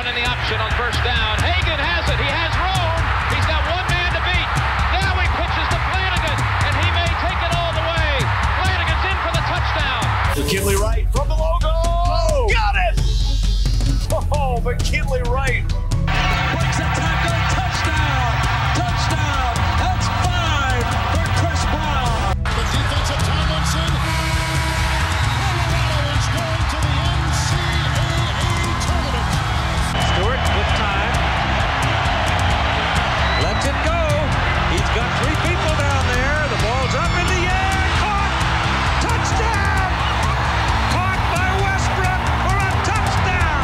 in the option on first down. Hagan has it. He has room. He's got one man to beat. Now he pitches to Flanagan, and he may take it all the way. Flanagan's in for the touchdown. McKinley Wright from the logo. Oh, got it! Oh, McKinley Wright. Breaks a tackle. Touchdown. Touchdown. That's 5 for Chris Brown. The defensive Tomlinson. Colorado is going to the NCAA tournament. Stewart with time. Lets it go. He's got 3 people down there. The ball's up in the air. Caught. Touchdown. Caught by Westbrook for a touchdown.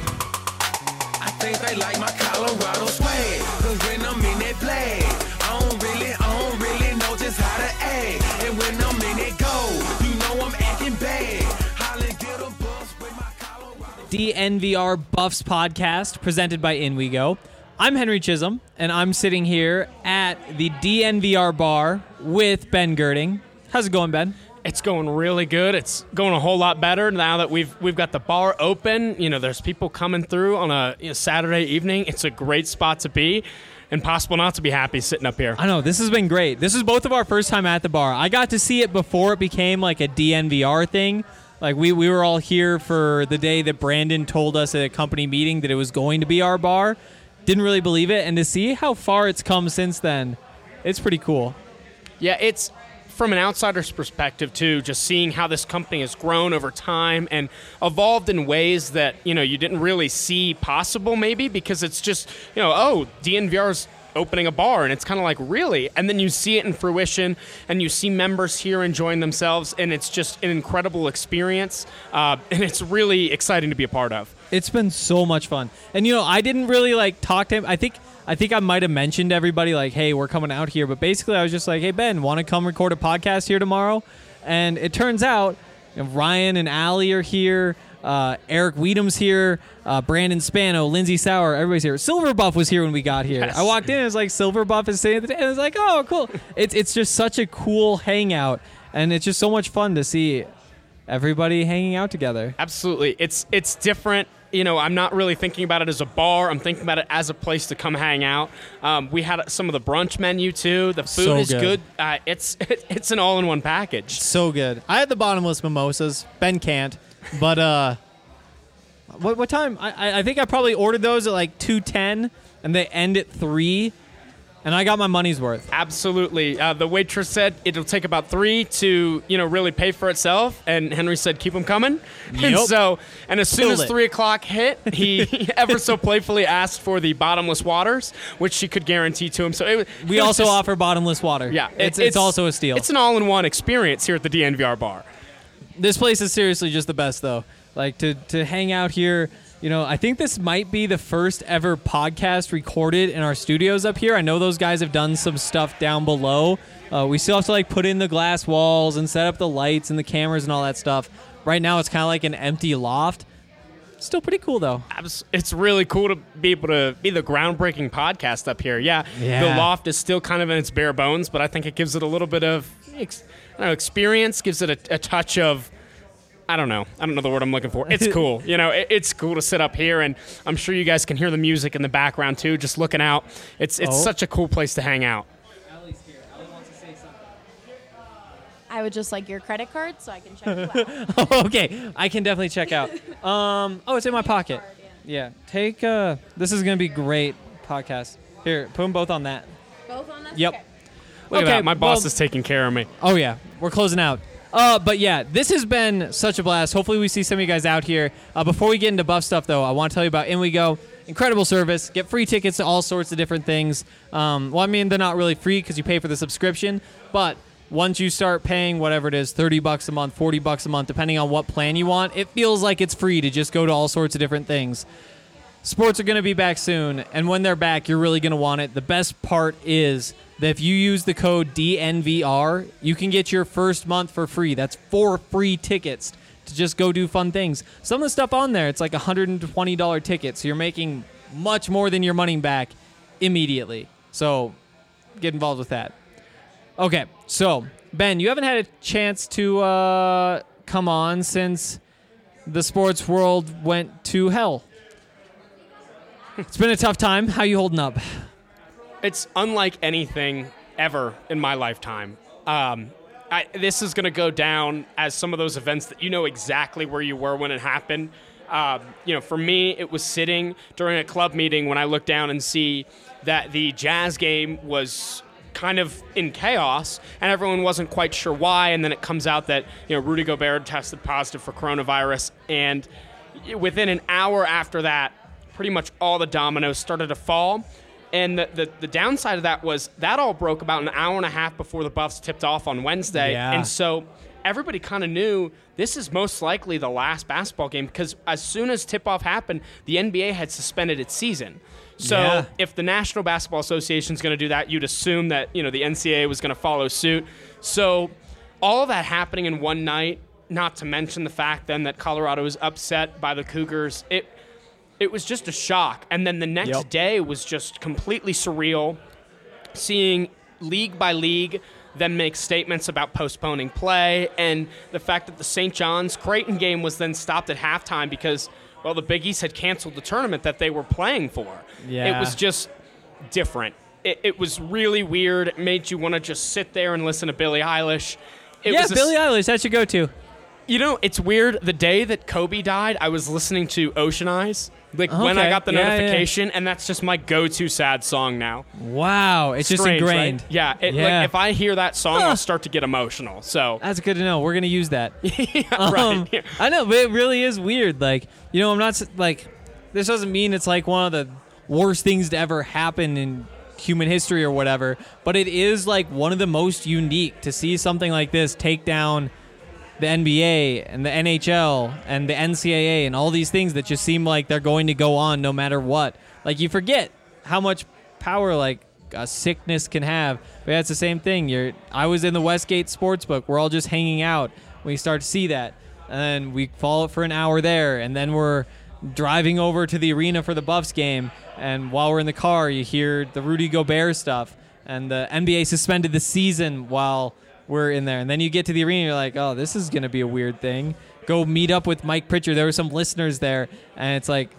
I think they like my Colorado swag, 'cause when I'm in that play, I don't really know just how to act. And when I'm in it go, you know I'm acting bad. Holly get a bus with my Colorado. DNVR Buffs podcast presented by In We Go. I'm Henry Chisholm, and I'm sitting here at the DNVR bar with Ben Girding. How's it going, Ben? It's going really good. It's going a whole lot better now that we've got the bar open. You know, there's people coming through on a Saturday evening. It's a great spot to be. Impossible not to be happy sitting up here. I know, this has been great. This is both of our first time at the bar. I got to see it before it became like a DNVR thing. Like we were all here for the day that Brandon told us at a company meeting that it was going to be our bar. Didn't really believe it, and to see how far it's come since then, it's pretty cool. Yeah, it's from an outsider's perspective too, just seeing how this company has grown over time and evolved in ways that, you know, you didn't really see possible maybe, because it's just, you know, oh, DNVR's opening a bar, and it's kind of like, really? And then you see it in fruition, and you see members here enjoying themselves, and it's just an incredible experience, and it's really exciting to be a part of. It's been so much fun. And, you know, I didn't really, talk to him. I think I might have mentioned to everybody, hey, we're coming out here. But basically, I was just like, hey, Ben, want to come record a podcast here tomorrow? And it turns out Ryan and Allie are here. Eric Weedham's here. Brandon Spano, Lindsay Sauer, everybody's here. Silver Buff was here when we got here. Yes. I walked in, and it was like, Silver Buff is sitting at the table. And I was like, oh, cool. It's just such a cool hangout. And it's just so much fun to see everybody hanging out together. Absolutely. It's different. You know, I'm not really thinking about it as a bar. I'm thinking about it as a place to come hang out. We had some of the brunch menu, too. The food is good. It's an all-in-one package. So good. I had the bottomless mimosas. Ben can't. But what time? I think I probably ordered those at 2:10, and they end at 3. And I got my money's worth. Absolutely. The waitress said it'll take about 3 to, really pay for itself. And Henry said, keep them coming. Yep. And as soon as 3 o'clock hit, he ever so playfully asked for the bottomless waters, which she could guarantee to him. So we also offer bottomless water. Yeah. It's also a steal. It's an all-in-one experience here at the DNVR bar. This place is seriously just the best, though. To hang out here. I think this might be the first ever podcast recorded in our studios up here. I know those guys have done some stuff down below. We still have to put in the glass walls and set up the lights and the cameras and all that stuff. Right now it's kind of like an empty loft. Still pretty cool, though. It's really cool to be able to be the groundbreaking podcast up here. Yeah. The loft is still kind of in its bare bones, but I think it gives it a little bit of experience, gives it a touch of, I don't know the word I'm looking for. It's cool. It's cool to sit up here, and I'm sure you guys can hear the music in the background too, just looking out. It's such a cool place to hang out. Allie's here. Allie wants to say something. I would just like your credit card so I can check you out. Oh, okay. I can definitely check out. It's in my pocket. Yeah. Take, this is going to be great podcast. Here, put them both on that. Both on this? Yep. Okay. Look at that. My boss is taking care of me. Oh, yeah. We're closing out. But yeah, this has been such a blast. Hopefully we see some of you guys out here. Before we get into Buff stuff, though, I want to tell you about In We Go. Incredible service. Get free tickets to all sorts of different things. They're not really free because you pay for the subscription. But once you start paying whatever it is, $30 a month, $40 a month, depending on what plan you want, it feels like it's free to just go to all sorts of different things. Sports are going to be back soon, and when they're back, you're really going to want it. The best part is that if you use the code DNVR, you can get your first month for free. That's 4 free tickets to just go do fun things. Some of the stuff on there, it's like $120 ticket, so you're making much more than your money back immediately. So get involved with that. Okay, so Ben, you haven't had a chance to come on since the sports world went to hell. It's been a tough time. How you holding up? It's unlike anything ever in my lifetime. This is going to go down as some of those events that you know exactly where you were when it happened. For me, it was sitting during a club meeting when I looked down and see that the Jazz game was kind of in chaos, and everyone wasn't quite sure why. And then it comes out that Rudy Gobert tested positive for coronavirus, and within an hour after that, pretty much all the dominoes started to fall. And the downside of that was that all broke about an hour and a half before the Buffs tipped off on Wednesday. Yeah. And so everybody kind of knew this is most likely the last basketball game, because as soon as tip-off happened, the NBA had suspended its season. So if the National Basketball Association is going to do that, you'd assume that the NCAA was going to follow suit. So all of that happening in one night, not to mention the fact then that Colorado was upset by the Cougars, it was just a shock. And then the next day was just completely surreal, seeing league by league them make statements about postponing play, and the fact that the St. John's Creighton game was then stopped at halftime because, well, the Big East had canceled the tournament that they were playing for. Yeah. It was just different. It was really weird. It made you want to just sit there and listen to Billie Eilish. Billie Eilish, that's your go-to. It's weird. The day that Kobe died, I was listening to Ocean Eyes, when I got the notification, and that's just my go-to sad song now. Wow, it's just ingrained. Right? Yeah, Like, if I hear that song, I'll start to get emotional. So that's good to know. We're gonna use that. Right. Yeah. I know, but it really is weird. Like, I'm not like, this doesn't mean it's like one of the worst things to ever happen in human history or whatever, but it is like one of the most unique to see something like this take down the NBA and the NHL and the NCAA and all these things that just seem like they're going to go on no matter what. Like, you forget how much power like a sickness can have. But it's the same thing. I was in the Westgate Sportsbook. We're all just hanging out. We start to see that, and then we follow it for an hour there, and then we're driving over to the arena for the Buffs game. And while we're in the car, you hear the Rudy Gobert stuff, and the NBA suspended the season while we're in there. And then you get to the arena, and you're like, oh, this is going to be a weird thing. Go meet up with Mike Pritchard. There were some listeners there, and it's like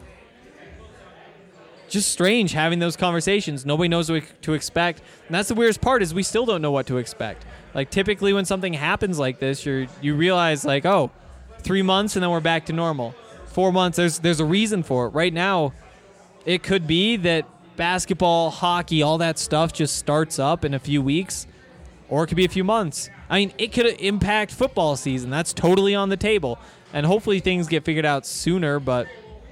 just strange having those conversations. Nobody knows what to expect. And that's the weirdest part, is we still don't know what to expect. Like, typically when something happens like this, you realize, like, 3 months and then we're back to normal. 4 months, there's a reason for it. Right now, it could be that basketball, hockey, all that stuff just starts up in a few weeks, or it could be a few months. I mean, it could impact football season. That's totally on the table. And hopefully things get figured out sooner, but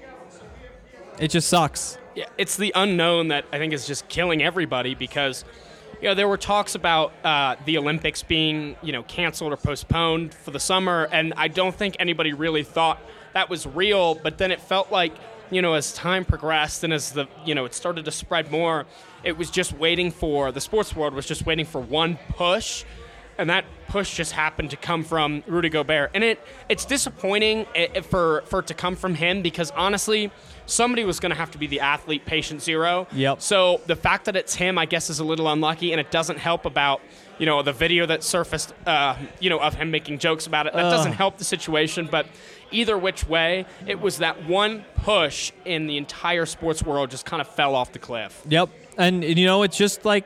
it just sucks. Yeah, it's the unknown that I think is just killing everybody, because there were talks about the Olympics being canceled or postponed for the summer, and I don't think anybody really thought that was real. But then it felt like as time progressed and as it started to spread more, it was just waiting for the sports world was just waiting for one push, and that push just happened to come from Rudy Gobert. And it's disappointing for it to come from him, because honestly, somebody was going to have to be the athlete patient zero. Yep. So the fact that it's him, I guess, is a little unlucky, and it doesn't help about the video that surfaced of him making jokes about it. That doesn't help the situation, but either which way, it was that one push in the entire sports world just kind of fell off the cliff. Yep. And it's just like,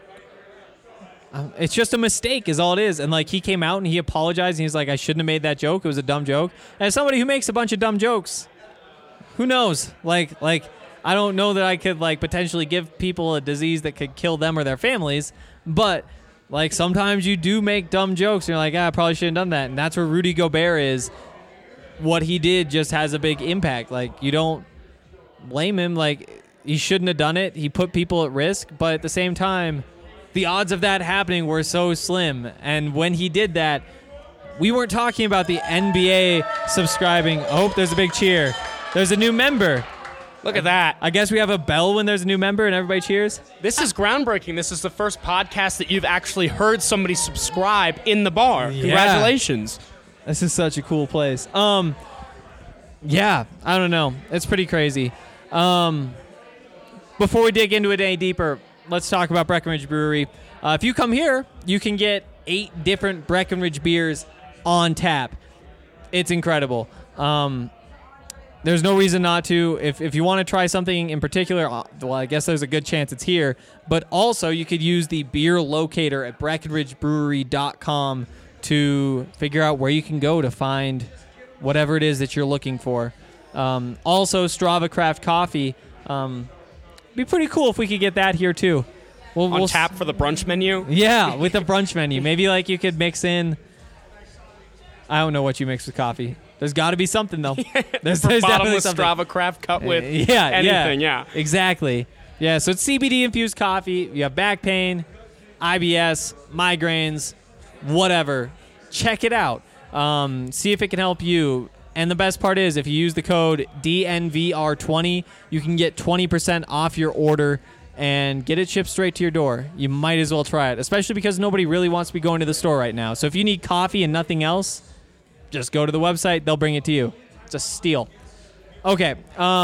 it's just a mistake is all it is. And like, he came out and he apologized, and he's like, I shouldn't have made that joke. It was a dumb joke. And as somebody who makes a bunch of dumb jokes, who knows? Like I don't know that I could like potentially give people a disease that could kill them or their families, but like sometimes you do make dumb jokes and you're like, I probably shouldn't have done that. And that's where Rudy Gobert is. What he did just has a big impact. Like, you don't blame him. Like, he shouldn't have done it. He put people at risk, but at the same time, the odds of that happening were so slim. And when he did that, we weren't talking about the NBA subscribing. Oh, there's a big cheer. There's a new member. Look at that. I guess we have a bell when there's a new member and everybody cheers. This is groundbreaking. This is the first podcast that you've actually heard somebody subscribe in the bar. Yeah. Congratulations. This is such a cool place. Yeah, I don't know. It's pretty crazy. Before we dig into it any deeper, let's talk about Breckenridge Brewery. If you come here, you can get 8 different Breckenridge beers on tap. It's incredible. There's no reason not to. If you want to try something in particular, well, I guess there's a good chance it's here. But also, you could use the beer locator at BreckenridgeBrewery.com to figure out where you can go to find whatever it is that you're looking for. Also, Strava Craft Coffee. Be pretty cool if we could get that here, too. On tap for the brunch menu? Yeah, with the brunch menu. Maybe like you could mix in... I don't know what you mix with coffee. There's got to be something, though. There's bottomless something. Strava Craft cut with anything, yeah. Exactly. Yeah, so it's CBD-infused coffee. You have back pain, IBS, migraines, whatever. Check it out. See if it can help you. And the best part is, if you use the code DNVR20, you can get 20% off your order and get it shipped straight to your door. You might as well try it, especially because nobody really wants to be going to the store right now. So if you need coffee and nothing else, just go to the website. They'll bring it to you. It's a steal. Okay.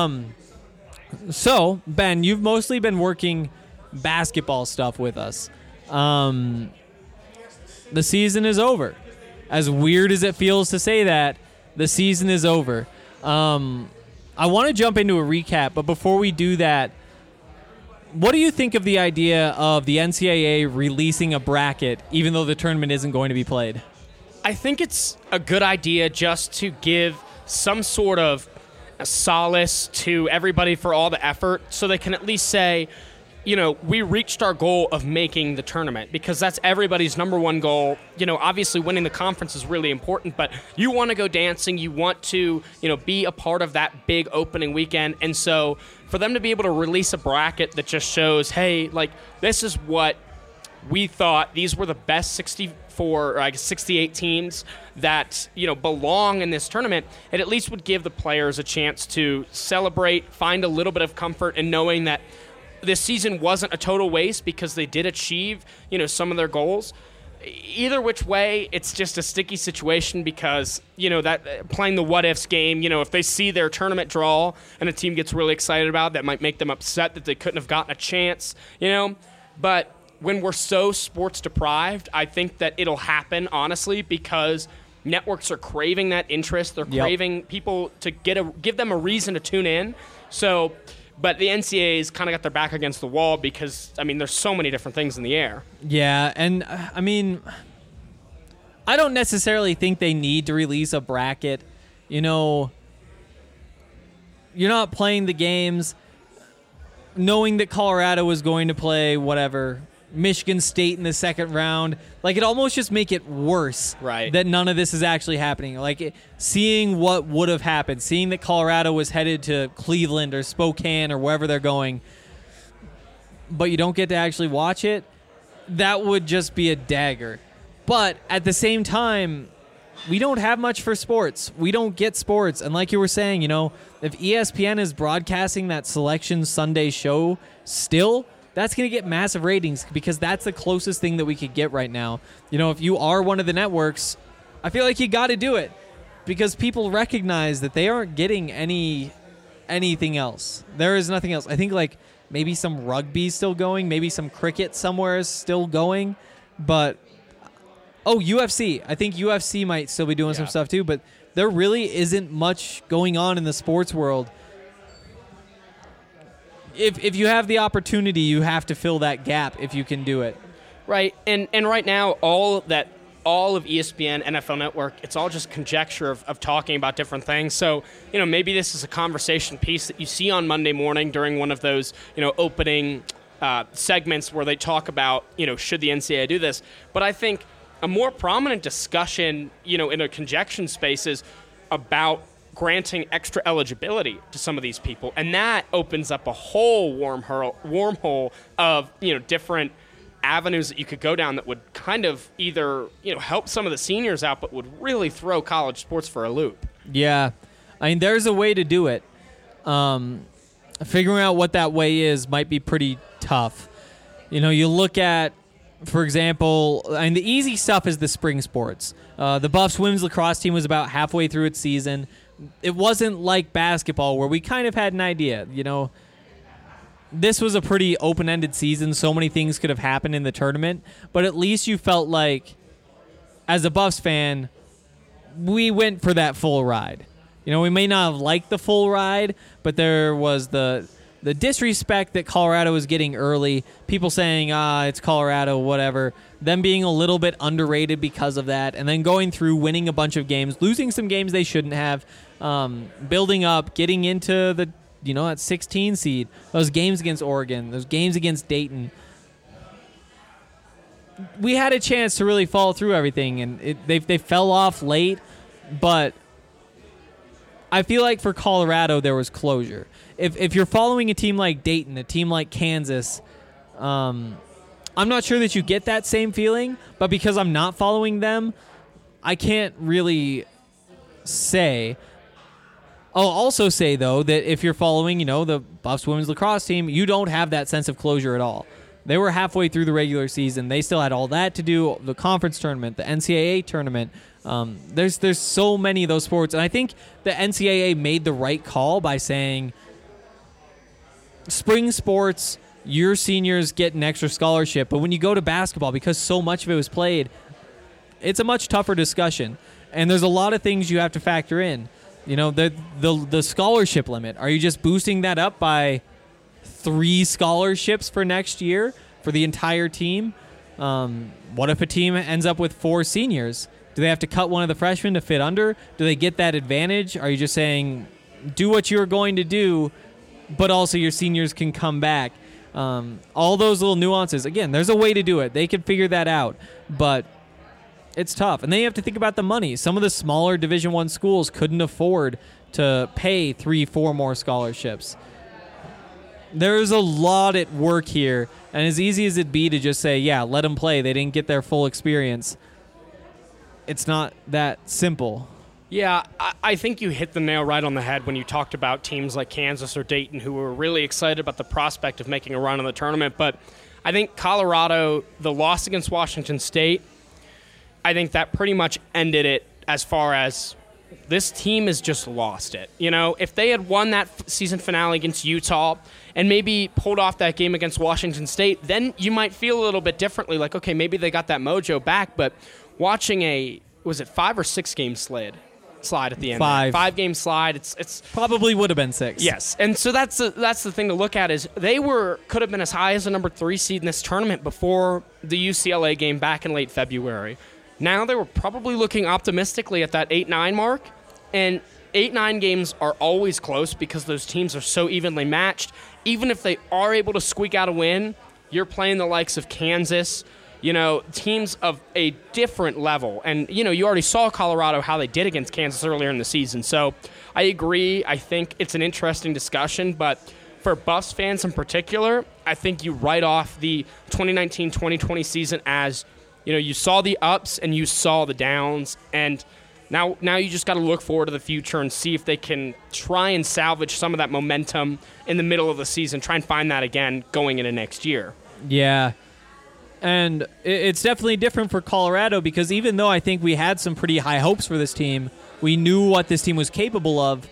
So, Ben, you've mostly been working basketball stuff with us. The season is over. As weird as it feels to say that, the season is over. I want to jump into a recap, but before we do that, what do you think of the idea of the NCAA releasing a bracket even though the tournament isn't going to be played? I think it's a good idea just to give some sort of a solace to everybody for all the effort so they can at least say, you know, we reached our goal of making the tournament, because that's everybody's number one goal. You know, obviously winning the conference is really important, but you want to go dancing. You want to, you know, be a part of that big opening weekend. And so for them to be able to release a bracket that just shows, hey, like, this is what we thought. These were the best 64, or I guess 68 teams that, you know, belong in this tournament. It at least would give the players a chance to celebrate, find a little bit of comfort in knowing that this season wasn't a total waste because they did achieve, you know, some of their goals. Either which way, it's just a sticky situation because, you know, that playing the what-ifs game, you know, if they see their tournament draw and a team gets really excited about it, that might make them upset that they couldn't have gotten a chance, you know. But when we're so sports deprived, I think that it'll happen, honestly, because networks are craving that interest. They're craving people to give them a reason to tune in. So... But the NCAA's kind of got their back against the wall because, I mean, there's so many different things in the air. Yeah, and, I mean, I don't necessarily think they need to release a bracket. You know, you're not playing the games knowing that Colorado was going to play, whatever, Michigan State in the second round. Like, it almost just make it worse that none of this is actually happening. Like, seeing what would have happened, seeing that Colorado was headed to Cleveland or Spokane or wherever they're going, but you don't get to actually watch it, that would just be a dagger. But at the same time, we don't have much for sports. We don't get sports. And like you were saying, you know, if ESPN is broadcasting that Selection Sunday show still, that's going to get massive ratings because that's the closest thing that we could get right now. You know, if you are one of the networks, I feel like you got to do it because people recognize that they aren't getting anything else. There is nothing else. I think like maybe some rugby still going, maybe some cricket somewhere is still going, but UFC. I think UFC might still be doing some stuff too, but there really isn't much going on in the sports world. If you have the opportunity, you have to fill that gap if you can do it. Right, and right now, all of ESPN, NFL Network, it's all just conjecture of talking about different things. So, you know, maybe this is a conversation piece that you see on Monday morning during one of those, you know, opening segments where they talk about, you know, should the NCAA do this? But I think a more prominent discussion, you know, in a conjecture space is about granting extra eligibility to some of these people, and that opens up a whole wormhole of, you know, different avenues that you could go down that would kind of either, you know, help some of the seniors out, but would really throw college sports for a loop. Yeah, I mean, there's a way to do it. Figuring out what that way is might be pretty tough. You know, you look at, for example, I mean, the easy stuff is the spring sports. The Buffs women's lacrosse team was about halfway through its season. It wasn't like basketball where we kind of had an idea, you know. This was a pretty open-ended season. So many things could have happened in the tournament, but at least you felt like, as a Buffs fan, we went for that full ride. You We may not have liked the full ride, but there was the disrespect that Colorado was getting early. People saying, it's Colorado, whatever. Them being a little bit underrated because of that, and then going through, winning a bunch of games, losing some games they shouldn't have, building up, getting into the that 16 seed, those games against Oregon, those games against Dayton. We had a chance to really follow through everything, and they fell off late, but I feel like for Colorado there was closure. If you're following a team like Dayton, a team like Kansas, I'm not sure that you get that same feeling, but because I'm not following them, I can't really say. I'll also say, though, that if you're following, the Buffs women's lacrosse team, you don't have that sense of closure at all. They were halfway through the regular season. They still had all that to do, the conference tournament, the NCAA tournament. There's so many of those sports, and I think the NCAA made the right call by saying spring sports, your seniors get an extra scholarship, but when you go to basketball, because so much of it was played, it's a much tougher discussion, and there's a lot of things you have to factor in. The scholarship limit. Are you just boosting that up by 3 scholarships for next year for the entire team? What if a team ends up with 4 seniors? Do they have to cut one of the freshmen to fit under? Do they get that advantage? Are you just saying, do what you're going to do, but also your seniors can come back? All those little nuances. Again, there's a way to do it. They can figure that out, but it's tough. And then you have to think about the money. Some of the smaller Division I schools couldn't afford to pay 3-4 more scholarships. There's a lot at work here, and as easy as it'd be to just say, yeah, let them play, they didn't get their full experience, it's not that simple. Yeah, I think you hit the nail right on the head when you talked about teams like Kansas or Dayton who were really excited about the prospect of making a run in the tournament. But I think Colorado, the loss against Washington State, I think that pretty much ended it as far as this team has just lost it. If they had won that season finale against Utah and maybe pulled off that game against Washington State, then you might feel a little bit differently, like, okay, maybe they got that mojo back. But watching was it 5 or 6 game slide at the end? 5 game slide. It's probably would have been 6. Yes, and so that's the thing to look at is they could have been as high as a number 3 seed in this tournament before the UCLA game back in late February. Now they were probably looking optimistically at that 8-9 mark, and 8-9 games are always close because those teams are so evenly matched. Even if they are able to squeak out a win, you're playing the likes of Kansas, teams of a different level. And, you already saw Colorado, how they did against Kansas earlier in the season. So I agree. I think it's an interesting discussion, but for Buffs fans in particular, I think you write off the 2019-2020 season as, you saw the ups and you saw the downs, and now you just got to look forward to the future and see if they can try and salvage some of that momentum in the middle of the season, try and find that again going into next year. Yeah. And it's definitely different for Colorado because even though I think we had some pretty high hopes for this team, we knew what this team was capable of,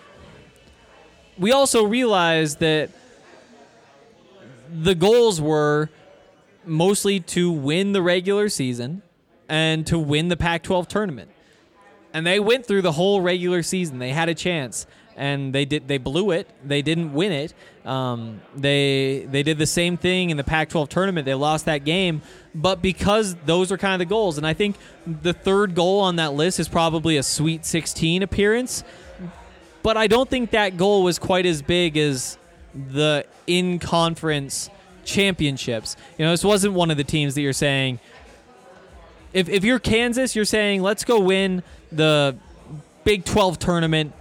we also realized that the goals were mostly to win the regular season and to win the Pac-12 tournament. And they went through the whole regular season. They had a chance, and they blew it. They didn't win it. They did the same thing in the Pac-12 tournament. They lost that game, but because those are kind of the goals. And I think the third goal on that list is probably a Sweet 16 appearance, but I don't think that goal was quite as big as the in-conference championships. This wasn't one of the teams that you're saying, if you're Kansas, you're saying, let's go win the Big 12 tournament,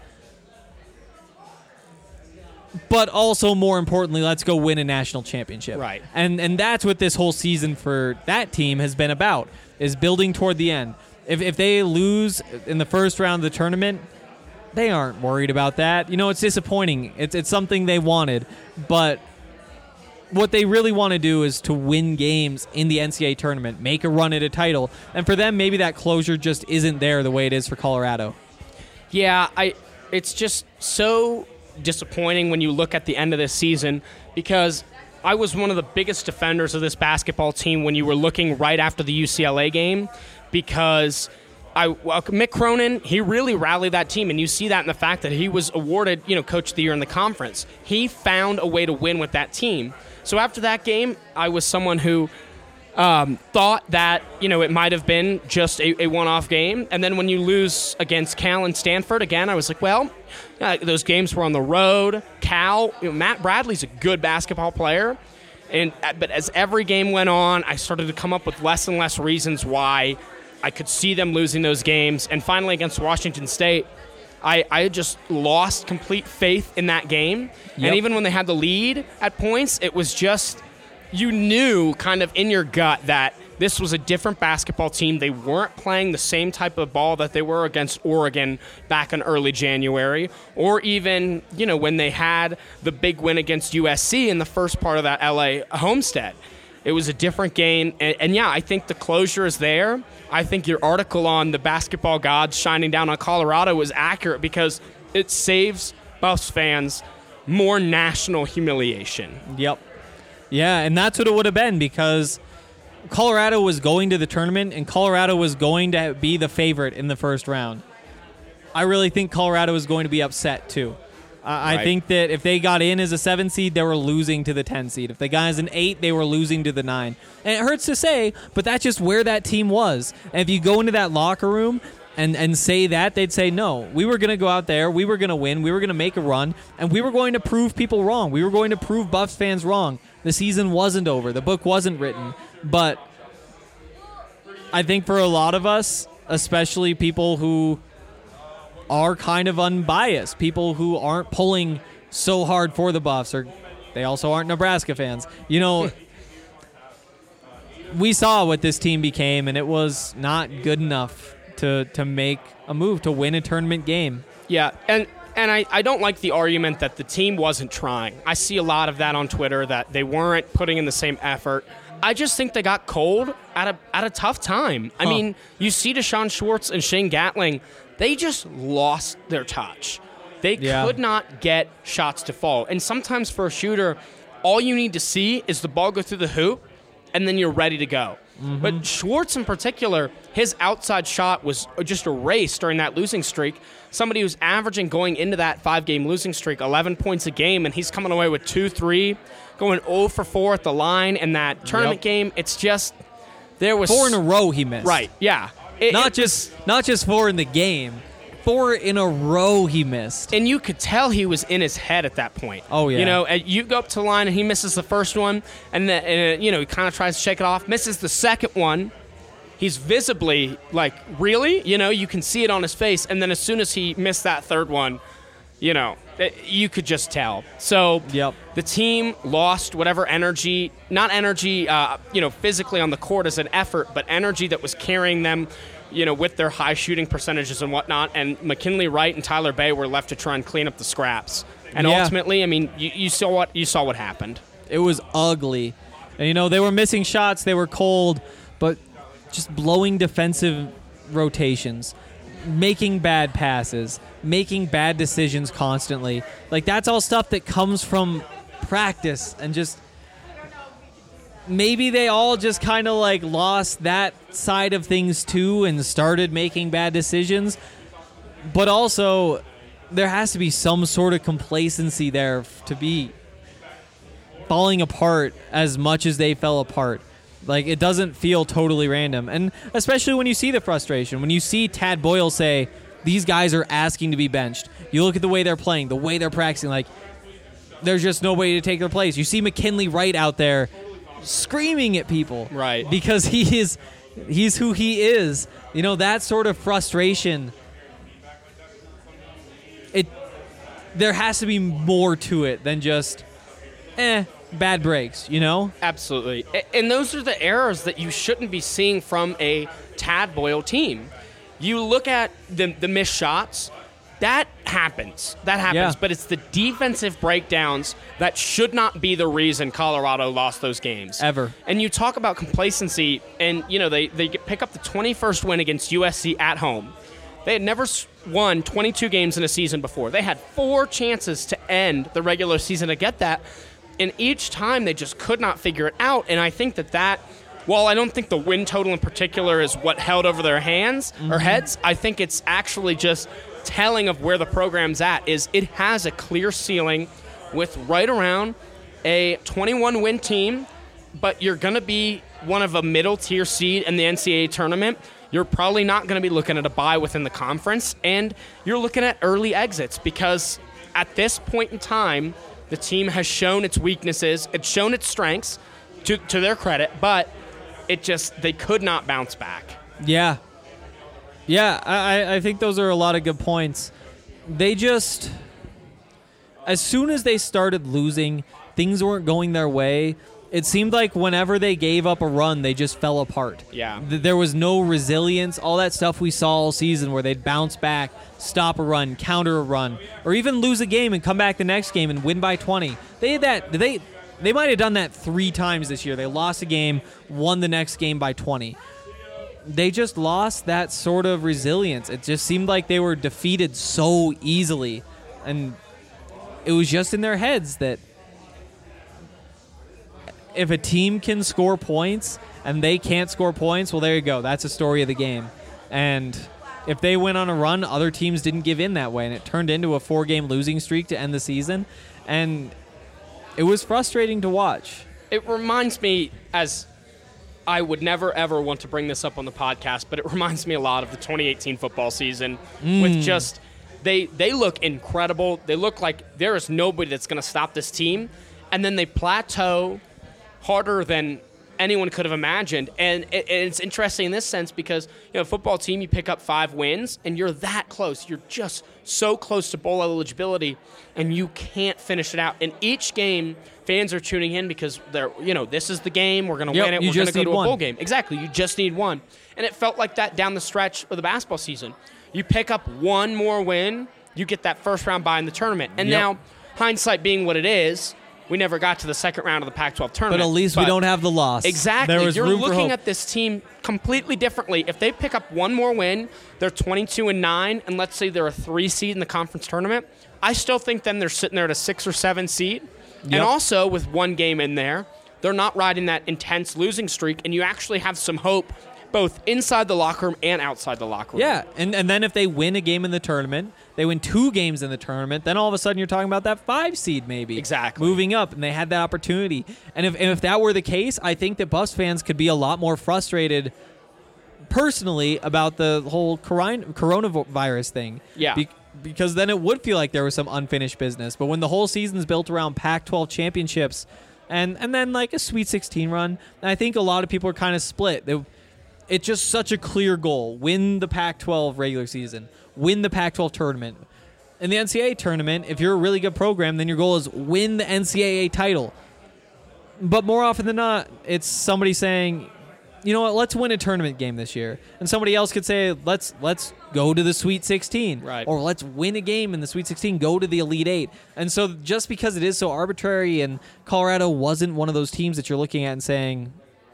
but also more importantly, let's go win a national championship. Right. And that's what this whole season for that team has been about, is building toward the end. If they lose in the first round of the tournament, they aren't worried about that. It's disappointing. It's something they wanted, but what they really want to do is to win games in the NCAA tournament, make a run at a title. And for them, maybe that closure just isn't there the way it is for Colorado. Yeah, it's just so disappointing when you look at the end of this season, because I was one of the biggest defenders of this basketball team when you were looking right after the UCLA game, because Mick Cronin, he really rallied that team, and you see that in the fact that he was awarded, Coach of the Year in the conference. He found a way to win with that team. So after that game, I was someone who thought that, it might have been just a one-off game. And then when you lose against Cal and Stanford, again, I was like, well, those games were on the road. Cal, Matt Bradley's a good basketball player. But as every game went on, I started to come up with less and less reasons why I could see them losing those games. And finally against Washington State, I just lost complete faith in that game. Yep. And even when they had the lead at points, it was just, you knew kind of in your gut that this was a different basketball team. They weren't playing the same type of ball that they were against Oregon back in early January, or even, when they had the big win against USC in the first part of that LA homestand. It was a different game. And yeah, I think the closure is there. I think your article on the basketball gods shining down on Colorado was accurate because it saves Buffs fans more national humiliation. Yep. Yeah, and that's what it would have been because Colorado was going to the tournament and Colorado was going to be the favorite in the first round. I really think Colorado was going to be upset too. I think that if they got in as a 7 seed, they were losing to the 10 seed. If they got as an 8, they were losing to the 9. And it hurts to say, but that's just where that team was. And if you go into that locker room and say that, they'd say, no, we were going to go out there, we were going to win, we were going to make a run, and we were going to prove people wrong. We were going to prove Buffs fans wrong. The season wasn't over. The book wasn't written. But I think for a lot of us, especially people who are kind of unbiased, people who aren't pulling so hard for the Buffs, or they also aren't Nebraska fans, we saw what this team became, and it was not good enough to make a move, to win a tournament game. Yeah, and I don't like the argument that the team wasn't trying. I see a lot of that on Twitter, that they weren't putting in the same effort. I just think they got cold at a tough time. I mean, you see Deshaun Schwartz and Shane Gatling, they just lost their touch. They could not get shots to fall. And sometimes for a shooter, all you need to see is the ball go through the hoop, and then you're ready to go. Mm-hmm. But Schwartz in particular, his outside shot was just erased during that losing streak. Somebody who's averaging going into that 5-game losing streak 11 points a game, and he's coming away with 2-3, going 0 for 4 at the line in that tournament game. It's just, there was 4 in a row he missed. Right, yeah. Not just 4 in the game. 4 in a row he missed. And you could tell he was in his head at that point. Oh, yeah. You go up to the line and he misses the first one, and then, he kind of tries to shake it off, misses the second one. He's visibly like, really? You can see it on his face. And then as soon as he missed that third one, you could just tell. So the team lost whatever energy, not energy, physically on the court as an effort, but energy that was carrying them, with their high shooting percentages and whatnot. And McKinley Wright and Tyler Bay were left to try and clean up the scraps. And ultimately, I mean, you saw what happened. It was ugly. And, they were missing shots. They were cold, but just blowing defensive rotations, making bad passes, making bad decisions constantly. Like, that's all stuff that comes from practice, and just maybe they all just kind of like lost that side of things too and started making bad decisions. But also, there has to be some sort of complacency there to be falling apart as much as they fell apart. Like, it doesn't feel totally random. And especially when you see the frustration, when you see Tad Boyle say, these guys are asking to be benched. You look at the way they're playing, the way they're practicing, like, there's just nobody to take their place. You see McKinley Wright out there screaming at people. Right. Because he's who he is. That sort of frustration, there has to be more to it than just, bad breaks, Absolutely. And those are the errors that you shouldn't be seeing from a Tad Boyle team. You look at the missed shots, that happens. But it's the defensive breakdowns that should not be the reason Colorado lost those games. Ever. And you talk about complacency, and, they pick up the 21st win against USC at home. They had never won 22 games in a season before. They had 4 chances to end the regular season to get that. And each time they just could not figure it out. And I think that while I don't think the win total in particular is what held over their hands or heads, I think it's actually just telling of where the program's at. Is it has a clear ceiling with right around a 21-win team, but you're going to be one of a middle-tier seed in the NCAA tournament. You're probably not going to be looking at a bye within the conference, and you're looking at early exits because at this point in time, the team has shown its weaknesses, it's shown its strengths, to their credit, but they could not bounce back. Yeah. Yeah, I think those are a lot of good points. They just, as soon as they started losing, things weren't going their way. It seemed like whenever they gave up a run, they just fell apart. Yeah. There was no resilience, all that stuff we saw all season where they'd bounce back, stop a run, counter a run, or even lose a game and come back the next game and win by 20. They had that. They might have done that 3 times this year. They lost a game, won the next game by 20. They just lost that sort of resilience. It just seemed like they were defeated so easily. And it was just in their heads that if a team can score points and they can't score points, well, there you go. That's a story of the game. And if they went on a run, other teams didn't give in that way, and it turned into a 4-game losing streak to end the season. And it was frustrating to watch. It reminds me, as I would never, ever want to bring this up on the podcast, but it reminds me a lot of the 2018 football season with just they look incredible. They look like there is nobody that's going to stop this team. And then they plateau harder than anyone could have imagined. And it's interesting in this sense because, a football team, you pick up 5 wins, and you're that close. You're just so close to bowl eligibility, and you can't finish it out. In each game, fans are tuning in because they're, this is the game. We're going to win it. We're going to go to a bowl game. Exactly. You just need one. And it felt like that down the stretch of the basketball season. You pick up one more win, you get that first round bye in the tournament. And now, hindsight being what it is, we never got to the second round of the Pac-12 tournament. But at least we don't have the loss. Exactly. There was You're room for looking hope. at this team completely differently. If they pick up one more win, they're 22-9, and let's say they're a 3 seed in the conference tournament, I still think then they're sitting there at a 6 or 7 seed. Yep. And also, with one game in there, they're not riding that intense losing streak, and you actually have some hope both inside the locker room and outside the locker room. Yeah, and then if they win a game in the tournament, they win 2 games in the tournament, then all of a sudden you're talking about that 5 seed maybe. Exactly. Moving up, and they had that opportunity. And if that were the case, I think that Buffs fans could be a lot more frustrated personally about the whole coronavirus thing. Yeah. Because then it would feel like there was some unfinished business. But when the whole season's built around Pac-12 championships and then like a Sweet 16 run, I think a lot of people are kind of split. It's just such a clear goal. Win the Pac-12 regular season. Win the Pac-12 tournament. In the NCAA tournament, if you're a really good program, then your goal is win the NCAA title. But more often than not, it's somebody saying, you know what, let's win a tournament game this year. And somebody else could say, let's go to the Sweet 16. Right. Or let's win a game in the Sweet 16, go to the Elite 8. And so just because it is so arbitrary and Colorado wasn't one of those teams that you're looking at and saying,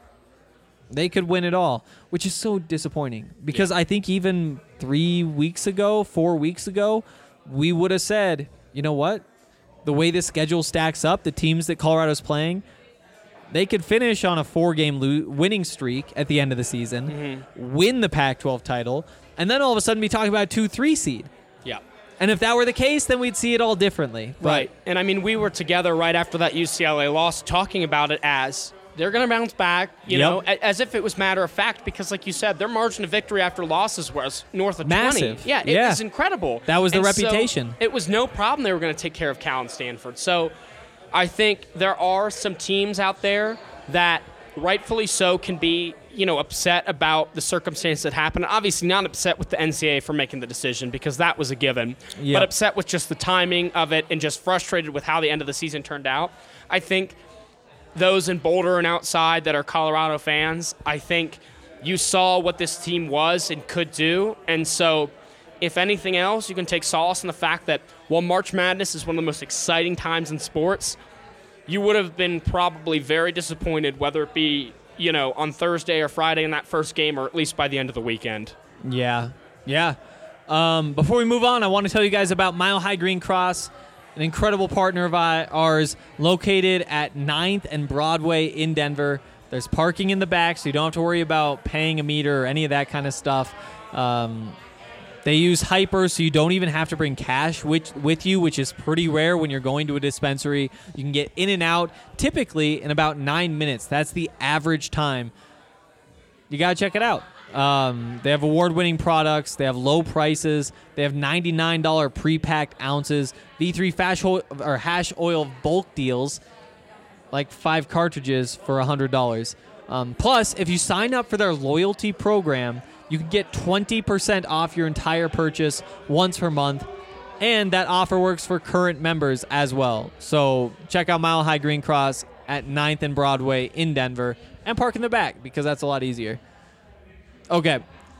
they could win it all, which is so disappointing because I think even 4 weeks ago, we would have said, you know what? The way the schedule stacks up, the teams that Colorado's playing, they could finish on a 4-game winning streak at the end of the season, win the Pac-12 title, and then all of a sudden be talking about a 2-3 seed. Yeah. And if that were the case, then we'd see it all differently. But Right. And I mean, we were together right after that UCLA loss talking about it as they're going to bounce back, you know, as if it was matter of fact, because like you said, their margin of victory after losses was north of 20. Massive. Yeah, it was incredible. That was the And reputation. So it was no problem they were going to take care of Cal and Stanford. So I think there are some teams out there that rightfully so can be, upset about the circumstance that happened. Obviously not upset with the NCAA for making the decision because that was a given, but upset with just the timing of it and just frustrated with how the end of the season turned out. I think those in Boulder and outside that are Colorado fans, I think you saw what this team was and could do. And so, if anything else, you can take solace in the fact that while March Madness is one of the most exciting times in sports, you would have been probably very disappointed, whether it be, on Thursday or Friday in that first game, or at least by the end of the weekend. Yeah. Before we move on, I want to tell you guys about Mile High Green Cross, an incredible partner of ours located at 9th and Broadway in Denver. There's parking in the back, so you don't have to worry about paying a meter or any of that kind of stuff. They use Hyper, so you don't even have to bring cash with you, which is pretty rare when you're going to a dispensary. You can get in and out typically in about 9 minutes. That's the average time. You got to check it out. They have award-winning products. They have low prices. They have $99 pre-packed ounces. V3 hash oil bulk deals, like 5 cartridges for $100. Plus, if you sign up for their loyalty program, you can get 20% off your entire purchase once per month, and that offer works for current members as well. So check out Mile High Green Cross at 9th and Broadway in Denver, and park in the back because that's a lot easier. Okay.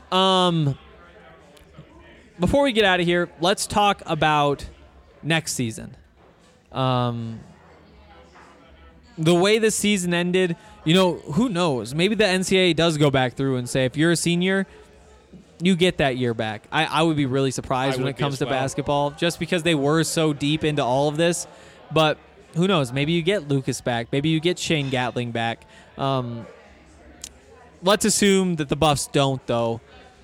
Before we get out of here, let's talk about next season. The way the season ended, who knows? Maybe the NCAA does go back through and say, if you're a senior, you get that year back. I would be really surprised when it comes to basketball, just because they were so deep into all of this. But who knows? Maybe you get Lucas back. Maybe you get Shane Gatling back. Let's assume that the Buffs don't, though.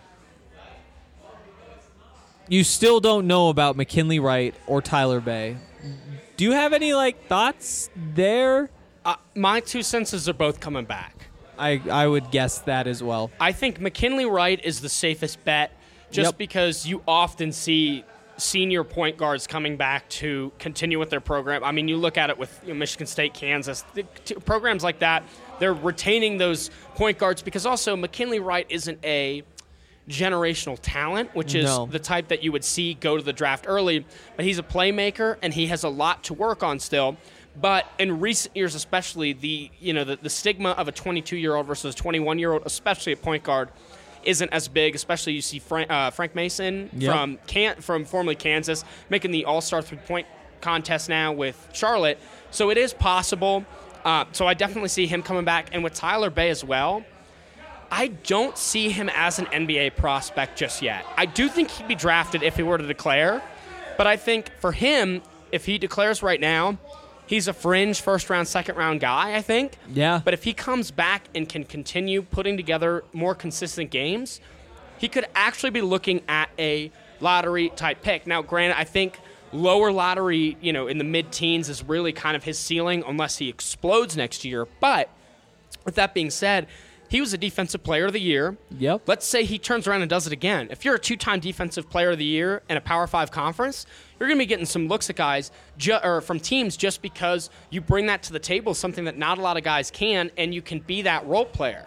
You still don't know about McKinley Wright or Tyler Bay. Do you have any thoughts there? My 2 cents are both coming back. I would guess that as well. I think McKinley Wright is the safest bet, just because you often see senior point guards coming back to continue with their program. I mean, you look at it with Michigan State, Kansas, programs like that. They're retaining those point guards because also McKinley Wright isn't a generational talent, which is the type that you would see go to the draft early, but he's a playmaker and he has a lot to work on still. But in recent years, especially, the stigma of a 22-year-old versus a 21-year-old, especially at point guard, isn't as big. Especially you see Frank Mason from formerly Kansas making the All-Star 3-point contest now with Charlotte. So it is possible. So I definitely see him coming back. And with Tyler Bay as well, I don't see him as an NBA prospect just yet. I do think he'd be drafted if he were to declare. But I think for him, if he declares right now, he's a fringe first-round, second-round guy, I think. Yeah. But if he comes back and can continue putting together more consistent games, he could actually be looking at a lottery-type pick. Now, granted, I think lower lottery, in the mid-teens is really kind of his ceiling unless he explodes next year. But with that being said, he was a Defensive Player of the Year. Yep. Let's say he turns around and does it again. If you're a 2-time Defensive Player of the Year in a Power 5 conference, you're going to be getting some looks at guys from teams just because you bring that to the table, something that not a lot of guys can, and you can be that role player.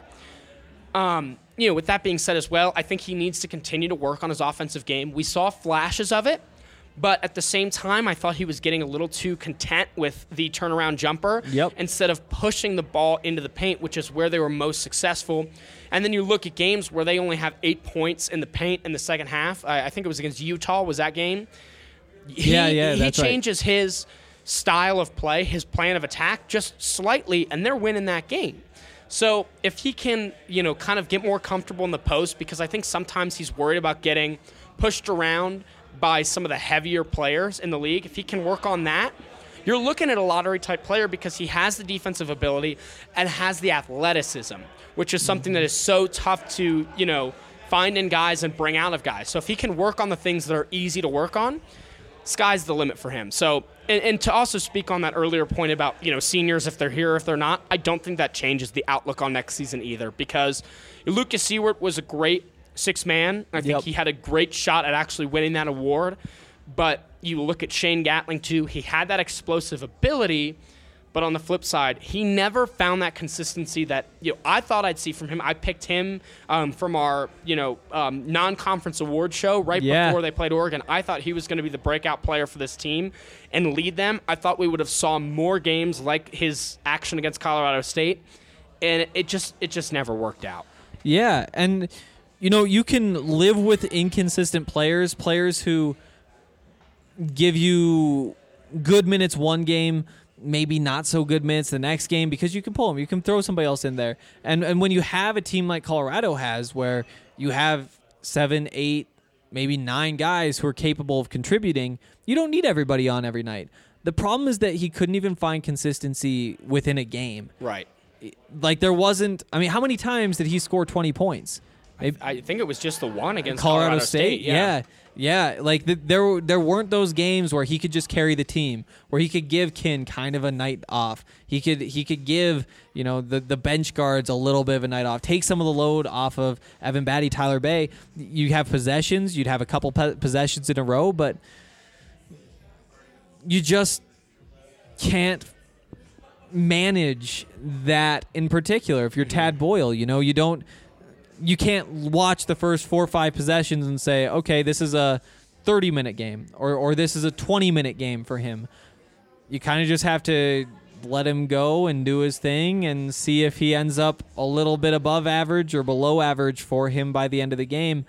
With that being said as well, I think he needs to continue to work on his offensive game. We saw flashes of it, but at the same time, I thought he was getting a little too content with the turnaround jumper instead of pushing the ball into the paint, which is where they were most successful. And then you look at games where they only have 8 points in the paint in the second half. I think it was against Utah, was that game? He changes his style of play, his plan of attack just slightly, and they're winning that game. So if he can, kind of get more comfortable in the post, because I think sometimes he's worried about getting pushed around by some of the heavier players in the league. If he can work on that, you're looking at a lottery-type player because he has the defensive ability and has the athleticism, which is something that is so tough to, find in guys and bring out of guys. So if he can work on the things that are easy to work on, sky's the limit for him. So, and to also speak on that earlier point about, seniors, if they're here or if they're not, I don't think that changes the outlook on next season either, because Lucas Seward was a great six-man. I think he had a great shot at actually winning that award. But you look at Shane Gatling, too. He had that explosive ability, but on the flip side, he never found that consistency that I thought I'd see from him. I picked him from our non-conference award show right before they played Oregon. I thought he was going to be the breakout player for this team and lead them. I thought we would have saw more games like his action against Colorado State, and it just never worked out. Yeah, and you can live with inconsistent players who give you good minutes one game, maybe not so good minutes the next game, because you can pull them. You can throw somebody else in there. And when you have a team like Colorado has, where you have 7, 8, maybe 9 guys who are capable of contributing, you don't need everybody on every night. The problem is that he couldn't even find consistency within a game. Right. Like there wasn't. I mean, how many times did he score 20 points? I think it was just the one against Colorado State. Yeah. Yeah. Like there weren't those games where he could just carry the team, where he could give Kin kind of a night off. He could give the bench guards a little bit of a night off, take some of the load off of Evan Batty, Tyler Bay. You have possessions, you'd have a couple possessions in a row, but you just can't manage that in particular. If you're Tad Boyle, you can't watch the first 4 or 5 possessions and say, okay, this is a 30-minute game or this is a 20-minute game for him. You kind of just have to let him go and do his thing and see if he ends up a little bit above average or below average for him by the end of the game.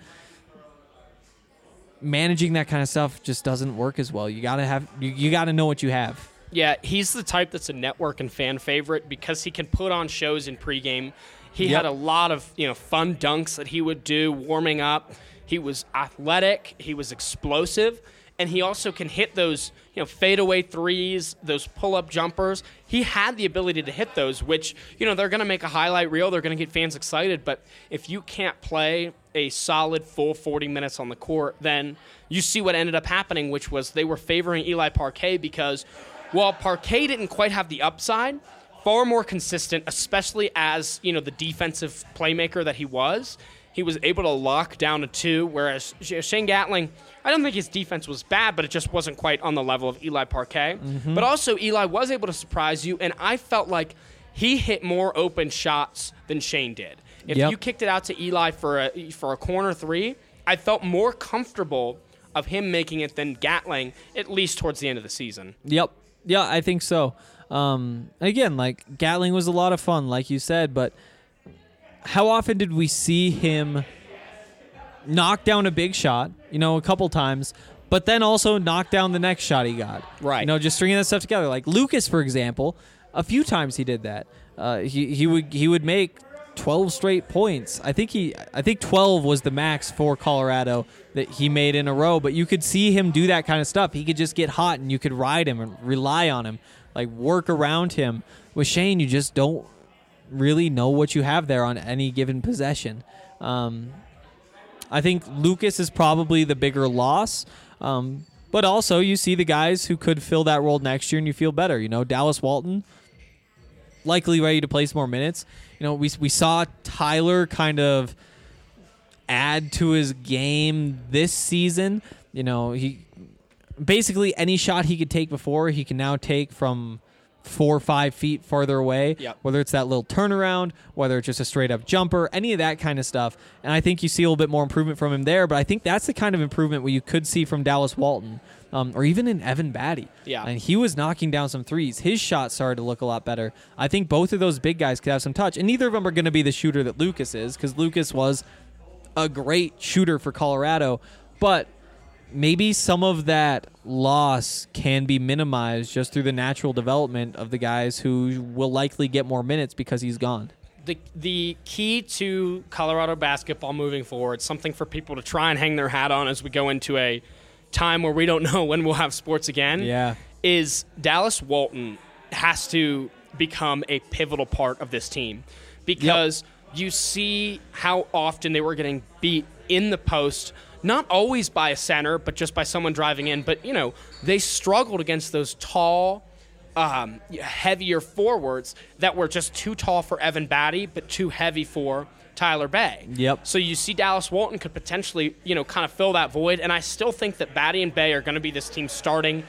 Managing that kind of stuff just doesn't work as well. You gotta know what you have. Yeah, he's the type that's a network and fan favorite because he can put on shows in pregame. He had a lot of fun dunks that he would do warming up. He was athletic. He was explosive. And he also can hit those fadeaway threes, those pull-up jumpers. He had the ability to hit those, which they're going to make a highlight reel. They're going to get fans excited. But if you can't play a solid full 40 minutes on the court, then you see what ended up happening, which was they were favoring Eli Parquet because while Parquet didn't quite have the upside, far more consistent, especially as the defensive playmaker that he was able to lock down a 2, whereas Shane Gatling, I don't think his defense was bad, but it just wasn't quite on the level of Eli Parquet. Mm-hmm. But also Eli was able to surprise you, and I felt like he hit more open shots than Shane did. If you kicked it out to Eli for a corner 3, I felt more comfortable of him making it than Gatling, at least towards the end of the season. Yep. Yeah, I think so. Again, like Gatling was a lot of fun, like you said, but how often did we see him knock down a big shot, a couple times, but then also knock down the next shot he got? Right. Just stringing that stuff together. Like Lucas, for example, a few times he did that. He would make 12 straight points. I think 12 was the max for Colorado that he made in a row, but you could see him do that kind of stuff. He could just get hot and you could ride him and rely on him, like work around him. With Shane, you just don't really know what you have there on any given possession. I think Lucas is probably the bigger loss, but also you see the guys who could fill that role next year and you feel better. Dallas Walton, likely ready to play some more minutes. We saw Tyler kind of add to his game this season. He basically any shot he could take before, he can now take from 4 or 5 feet farther away, whether it's that little turnaround, whether it's just a straight up jumper, any of that kind of stuff. And I think you see a little bit more improvement from him there, but I think that's the kind of improvement where you could see from Dallas Walton, or even in Evan Batty. Yeah. And he was knocking down some threes. His shot started to look a lot better. I think both of those big guys could have some touch, and neither of them are going to be the shooter that Lucas is, because Lucas was a great shooter for Colorado, but maybe some of that loss can be minimized just through the natural development of the guys who will likely get more minutes because he's gone. The key to Colorado basketball moving forward, something for people to try and hang their hat on as we go into a time where we don't know when we'll have sports again, is Dallas Walton has to become a pivotal part of this team because you see how often they were getting beat in the post, not always by a center, but just by someone driving in. But, they struggled against those tall, heavier forwards that were just too tall for Evan Batty, but too heavy for Tyler Bay. Yep. So you see Dallas Walton could potentially, kind of fill that void. And I still think that Batty and Bay are going to be this team's starting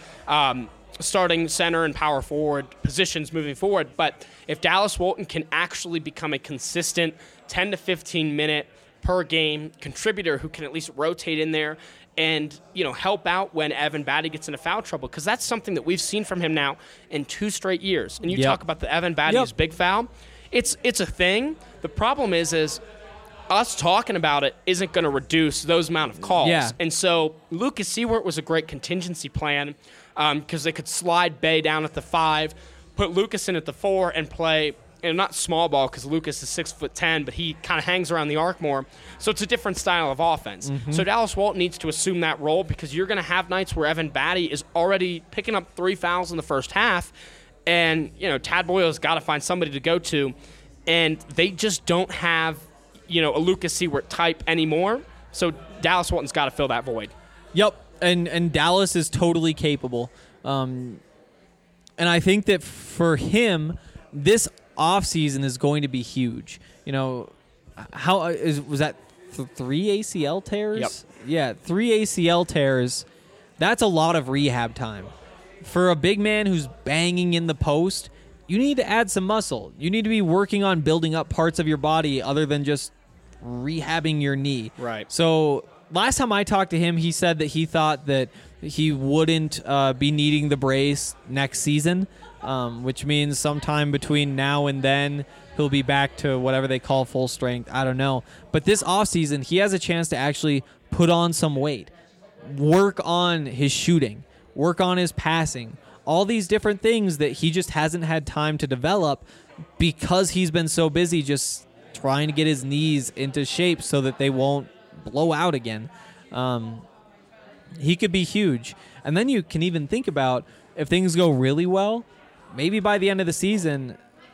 center and power forward positions moving forward. But if Dallas Walton can actually become a consistent 10 to 15 minute per game contributor who can at least rotate in there and help out when Evan Batty gets into foul trouble, because that's something that we've seen from him now in 2 straight years. And you talk about the Evan Batty's big foul. It's a thing. The problem is us talking about it isn't going to reduce those amount of calls. Yeah. And so Lucas Seward was a great contingency plan because they could slide Bay down at the 5, put Lucas in at the 4, and play. And not small ball because Lucas is 6'10", but he kind of hangs around the arc more. So it's a different style of offense. Mm-hmm. So Dallas Walton needs to assume that role because you're going to have nights where Evan Batty is already picking up 3 fouls in the first half, And, Tad Boyle's got to find somebody to go to. And they just don't have, a Lucas Seward type anymore. So Dallas Walton's got to fill that void. Yep, and Dallas is totally capable. And I think that for him, this offseason is going to be huge. Was that 3 ACL tears? Yep. Yeah, 3 ACL tears. That's a lot of rehab time. For a big man who's banging in the post, you need to add some muscle. You need to be working on building up parts of your body other than just rehabbing your knee. Right. So last time I talked to him, he said that he thought that he wouldn't be needing the brace next season, which means sometime between now and then he'll be back to whatever they call full strength. I don't know. But this offseason, he has a chance to actually put on some weight, work on his shooting, work on his passing, all these different things that he just hasn't had time to develop because he's been so busy just trying to get his knees into shape so that they won't blow out again. He could be huge. And then you can even think about, if things go really well, maybe by the end of the season,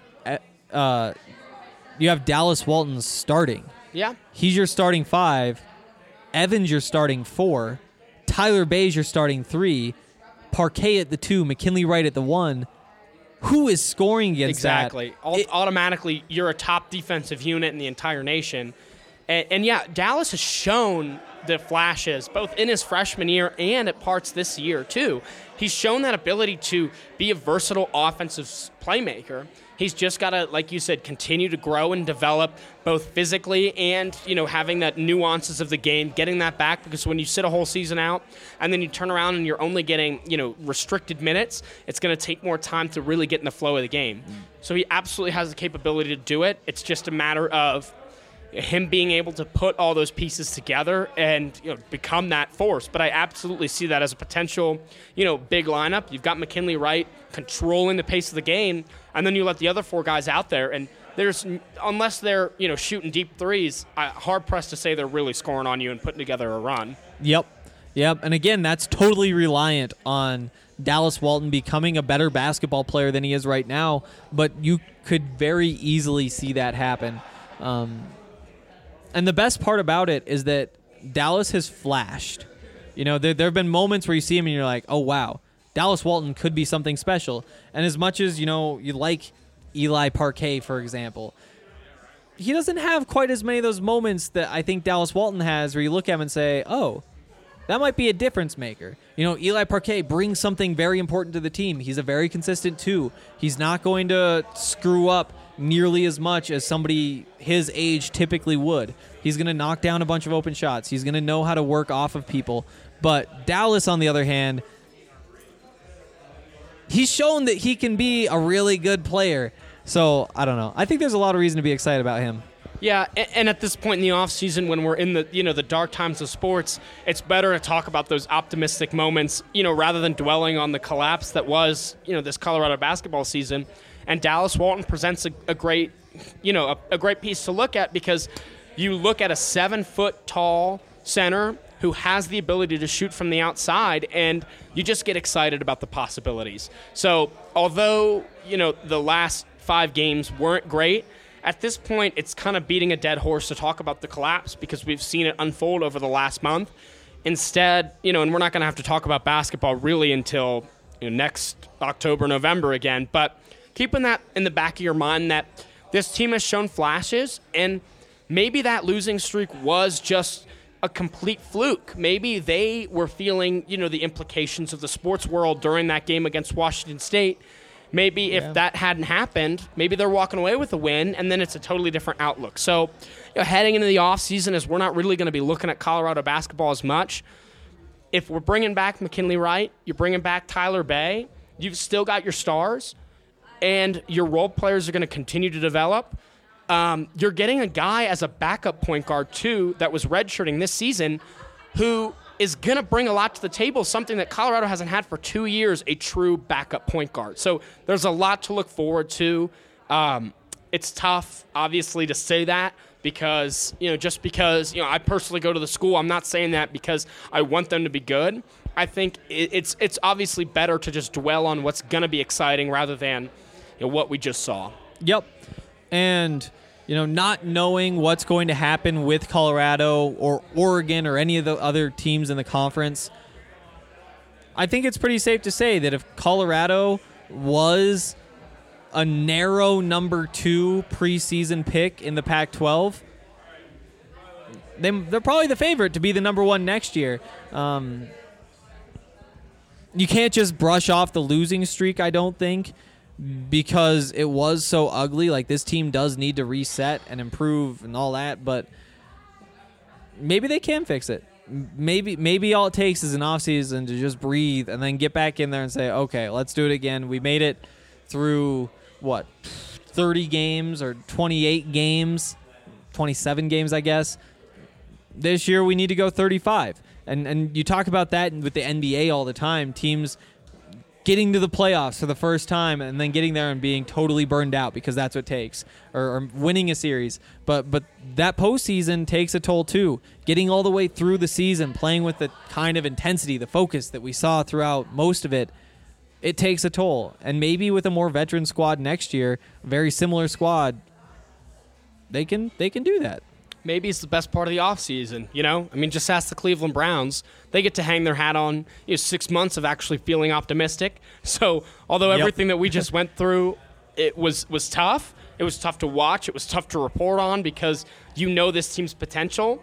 you have Dallas Walton starting. Yeah. He's your starting 5. Evans your starting 4. Tyler Bay's your starting 3. Parquet at the 2. McKinley Wright at the 1. Who is scoring against exactly. that? Automatically, you're a top defensive unit in the entire nation. And yeah, Dallas has shown the flashes, both in his freshman year and at parts this year, too. He's shown that ability to be a versatile offensive playmaker. He's just got to, like you said, continue to grow and develop both physically and, having that nuances of the game, getting that back, because when you sit a whole season out and then you turn around and you're only getting, restricted minutes, it's going to take more time to really get in the flow of the game. So he absolutely has the capability to do it. It's just a matter of him being able to put all those pieces together and become that force. But I absolutely see that as a potential, big lineup. You've got McKinley Wright controlling the pace of the game, and then you let the other 4 guys out there. And there's, unless they're shooting deep threes, hard pressed to say they're really scoring on you and putting together a run. Yep. And again, that's totally reliant on Dallas Walton becoming a better basketball player than he is right now. But you could very easily see that happen. And the best part about it is that Dallas has flashed. There have been moments where you see him and you're like, oh, wow, Dallas Walton could be something special. And as much as, you like Eli Parquet, for example, he doesn't have quite as many of those moments that I think Dallas Walton has where you look at him and say, oh, that might be a difference maker. Eli Parquet brings something very important to the team. He's a very consistent 2. He's not going to screw up nearly as much as somebody his age typically would. He's going to knock down a bunch of open shots. He's going to know how to work off of people. But Dallas, on the other hand, he's shown that he can be a really good player. So, I don't know. I think there's a lot of reason to be excited about him. Yeah, and at this point in the offseason, when we're in the the dark times of sports, it's better to talk about those optimistic moments, rather than dwelling on the collapse that was, this Colorado basketball season. And Dallas Walton presents a great, a great piece to look at, because you look at a 7-foot tall center who has the ability to shoot from the outside, and you just get excited about the possibilities. So although, the last 5 games weren't great, at this point it's kind of beating a dead horse to talk about the collapse, because we've seen it unfold over the last month. Instead, and we're not going to have to talk about basketball really until next October, November again, but keeping that in the back of your mind that this team has shown flashes, and maybe that losing streak was just a complete fluke. Maybe they were feeling, the implications of the sports world during that game against Washington State. Maybe if that hadn't happened, maybe they're walking away with a win, and then it's a totally different outlook. So, heading into the offseason, as we're not really going to be looking at Colorado basketball as much, if we're bringing back McKinley Wright, you're bringing back Tyler Bay, you've still got your stars, and your role players are going to continue to develop. You're getting a guy as a backup point guard, too, that was redshirting this season, who is going to bring a lot to the table, something that Colorado hasn't had for 2 years, a true backup point guard. So there's a lot to look forward to. It's tough, obviously, to say that because, just because, I personally go to the school, I'm not saying that because I want them to be good. I think it's obviously better to just dwell on what's going to be exciting rather than what we just saw. Yep. And, not knowing what's going to happen with Colorado or Oregon or any of the other teams in the conference, I think it's pretty safe to say that if Colorado was a narrow number 2 preseason pick in the Pac-12, they're probably the favorite to be the number 1 next year. You can't just brush off the losing streak, I don't think, because it was so ugly. Like, this team does need to reset and improve and all that, but maybe they can fix it. Maybe all it takes is an offseason to just breathe and then get back in there and say, okay, let's do it again. We made it through, 30 games or 28 games, 27 games, I guess. This year we need to go 35. And you talk about that with the NBA all the time, teams getting to the playoffs for the first time and then getting there and being totally burned out because that's what it takes, or winning a series. But that postseason takes a toll too. Getting all the way through the season, playing with the kind of intensity, the focus that we saw throughout most of it, it takes a toll. And maybe with a more veteran squad next year, a very similar squad, they can do that. Maybe it's the best part of the offseason, just ask the Cleveland Browns. They get to hang their hat on 6 months of actually feeling optimistic. So although everything that we just went through, it was tough. It was tough to watch. It was tough to report on because this team's potential.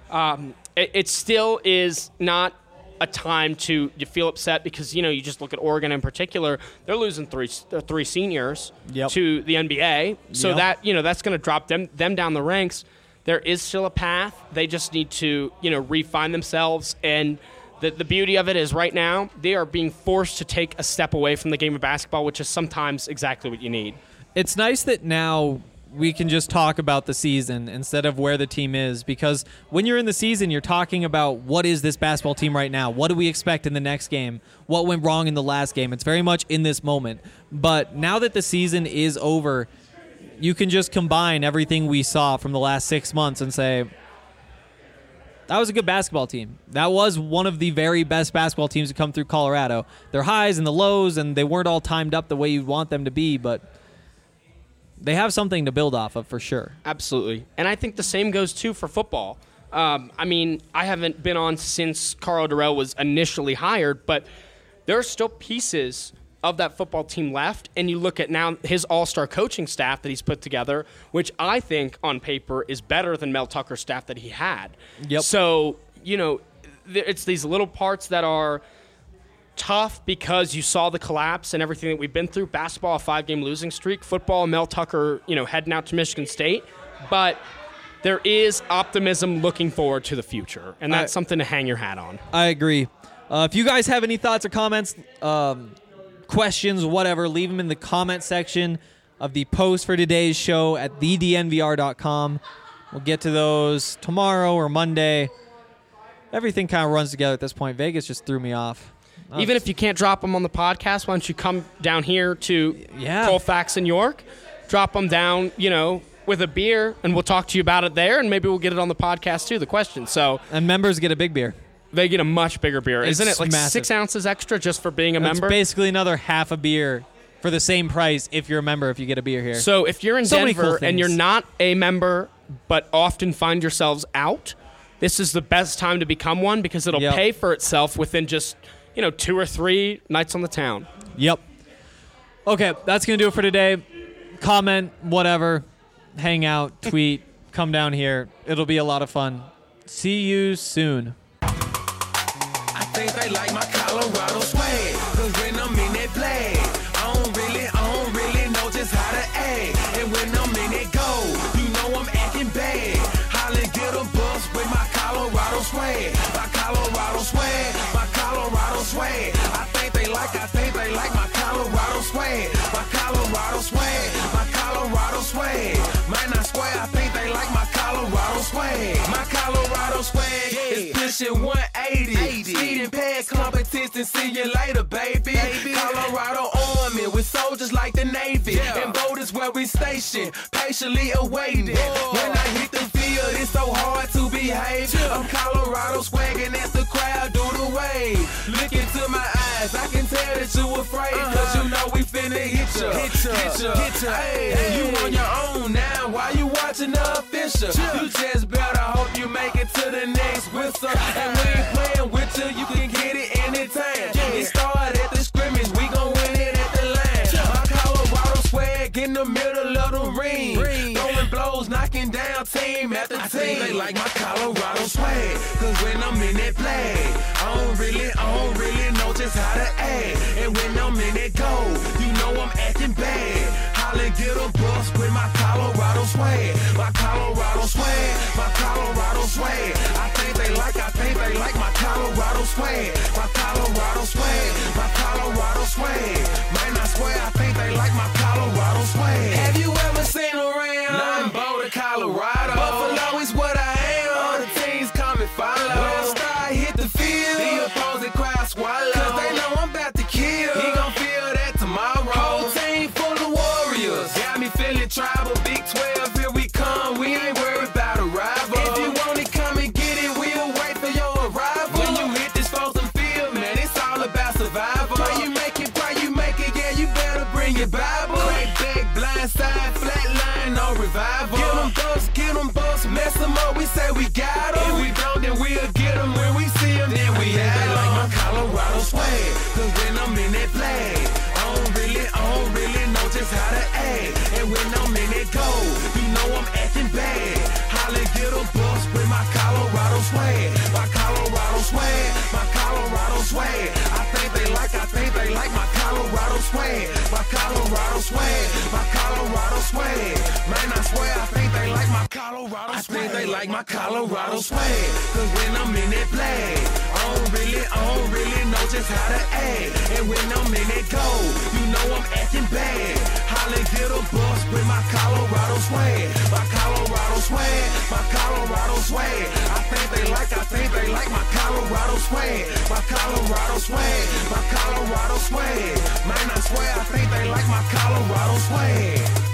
It still is not a time to feel upset because, you just look at Oregon in particular. They're losing three seniors to the NBA. So that, that's going to drop them down the ranks. There is still a path. They just need to, refine themselves. And the beauty of it is right now they are being forced to take a step away from the game of basketball, which is sometimes exactly what you need. It's nice that now we can just talk about the season instead of where the team is, because when you're in the season, you're talking about what is this basketball team right now? What do we expect in the next game? What went wrong in the last game? It's very much in this moment. But now that the season is over, you can just combine everything we saw from the last 6 months and say, that was a good basketball team. That was one of the very best basketball teams to come through Colorado. Their highs and the lows, and they weren't all timed up the way you'd want them to be, but they have something to build off of for sure. Absolutely. And I think the same goes, too, for football. I haven't been on since Carl Durrell was initially hired, but there are still pieces of that football team left, and you look at now his all-star coaching staff that he's put together, which I think on paper is better than Mel Tucker's staff that he had. Yep. So, it's these little parts that are tough because you saw the collapse and everything that we've been through. Basketball, a 5-game losing streak. Football, Mel Tucker, heading out to Michigan State. But there is optimism looking forward to the future, and that's something to hang your hat on. I agree. If you guys have any thoughts or comments, questions, whatever, leave them in the comment section of the post for today's show at thednvr.com. We'll get to those tomorrow or Monday. Everything kind of runs together at this point. Vegas just threw me off. Even if you can't drop them on the podcast, why don't you come down here to Colfax and York, drop them down, with a beer, and we'll talk to you about it there, and maybe we'll get it on the podcast too, the question. And members get a big beer. They get a much bigger beer. Isn't it like massive. 6 ounces extra just for being a member? It's basically another half a beer for the same price if you're a member, if you get a beer here. So if you're in Denver and you're not a member but often find yourselves out, this is the best time to become one because it'll pay for itself within just, 2 or 3 nights on the town. Yep. Okay, that's going to do it for today. Comment, whatever, hang out, tweet, come down here. It'll be a lot of fun. See you soon. I think they like my Colorado swag, cause when I'm in that play, I don't really know just how to act. And when I'm in that go, I'm acting bad. Holla, get a bus with my Colorado swag. My Colorado swag, my Colorado swag. I think they like my Colorado swag. My Colorado swag, my Colorado swag. Man, I swear, I think they like my Colorado swag. My Colorado swag is pushing 180. Speeding past competition, see you later, baby. Colorado Army with soldiers like the Navy. And boat is where we station, patiently awaiting. When I hit the field, it's so hard to behave. I'm Colorado swagging as the crowd do the wave. look into my eyes, I can tell that you afraid. Cause you know we finna hit ya. Hey, you on your own now, why you watching the official? You just better hope you make it to the next whistle. And we ain't playing with you, you can get it anytime. It started at the scrimmage, we gon' win it at the line. My Colorado swag in the middle of the ring. Throwing blows, knocking down team after team. They like my Colorado swag, cause when I'm in that play, I don't really know just how to act. And when I'm in that goal, you know I'm acting bad. Holla, get a bus with my Colorado swag. My Colorado swag, my Colorado swag. I think they like my Colorado swag. My Colorado swag, my Colorado swag. Man, I swear I think they like my Colorado swag. Have you ever seen around? Nothing but Colorado. Buffalo is what I am. All the teams come and follow. When I start hit the field, the opposing crowd swallow. Cause they know I'm about to kill. He gon' feel that tomorrow. Whole team full of warriors. Got me feeling tribal. Big 12, here we come. We ain't worried about a rival. If you want it, come and get it. We'll wait for your arrival. When you hit this frozen field, man, it's all about survival. Pray you make it, yeah, you better bring your Bible. Crack back, blind side, flat line, no revival. Get them bucks, mess them up, we say we got them. If we don't, then we'll get them. When we see them, then we have them. They like my Colorado swag, cause when I'm in that flag, I don't really know just how to act. And when I'm in that goal, you know I'm acting bad. Holla, get a bus with my Colorado swag. My Colorado swag, my Colorado swag. I think they like my Colorado swag. My Colorado swag, my Colorado swag. Man, I swear I think they like my Colorado swag. I think they like my Colorado swag. Cause when I'm in that flag, I don't really know just how to act. And when I'm in that goal, you know I'm acting bad. Holla, get a bus with my Colorado swag. My Colorado swag, my Colorado swag. I think they like my Colorado swag. My Colorado swag, my Colorado swag. Man, I swear I think they like my Colorado swag.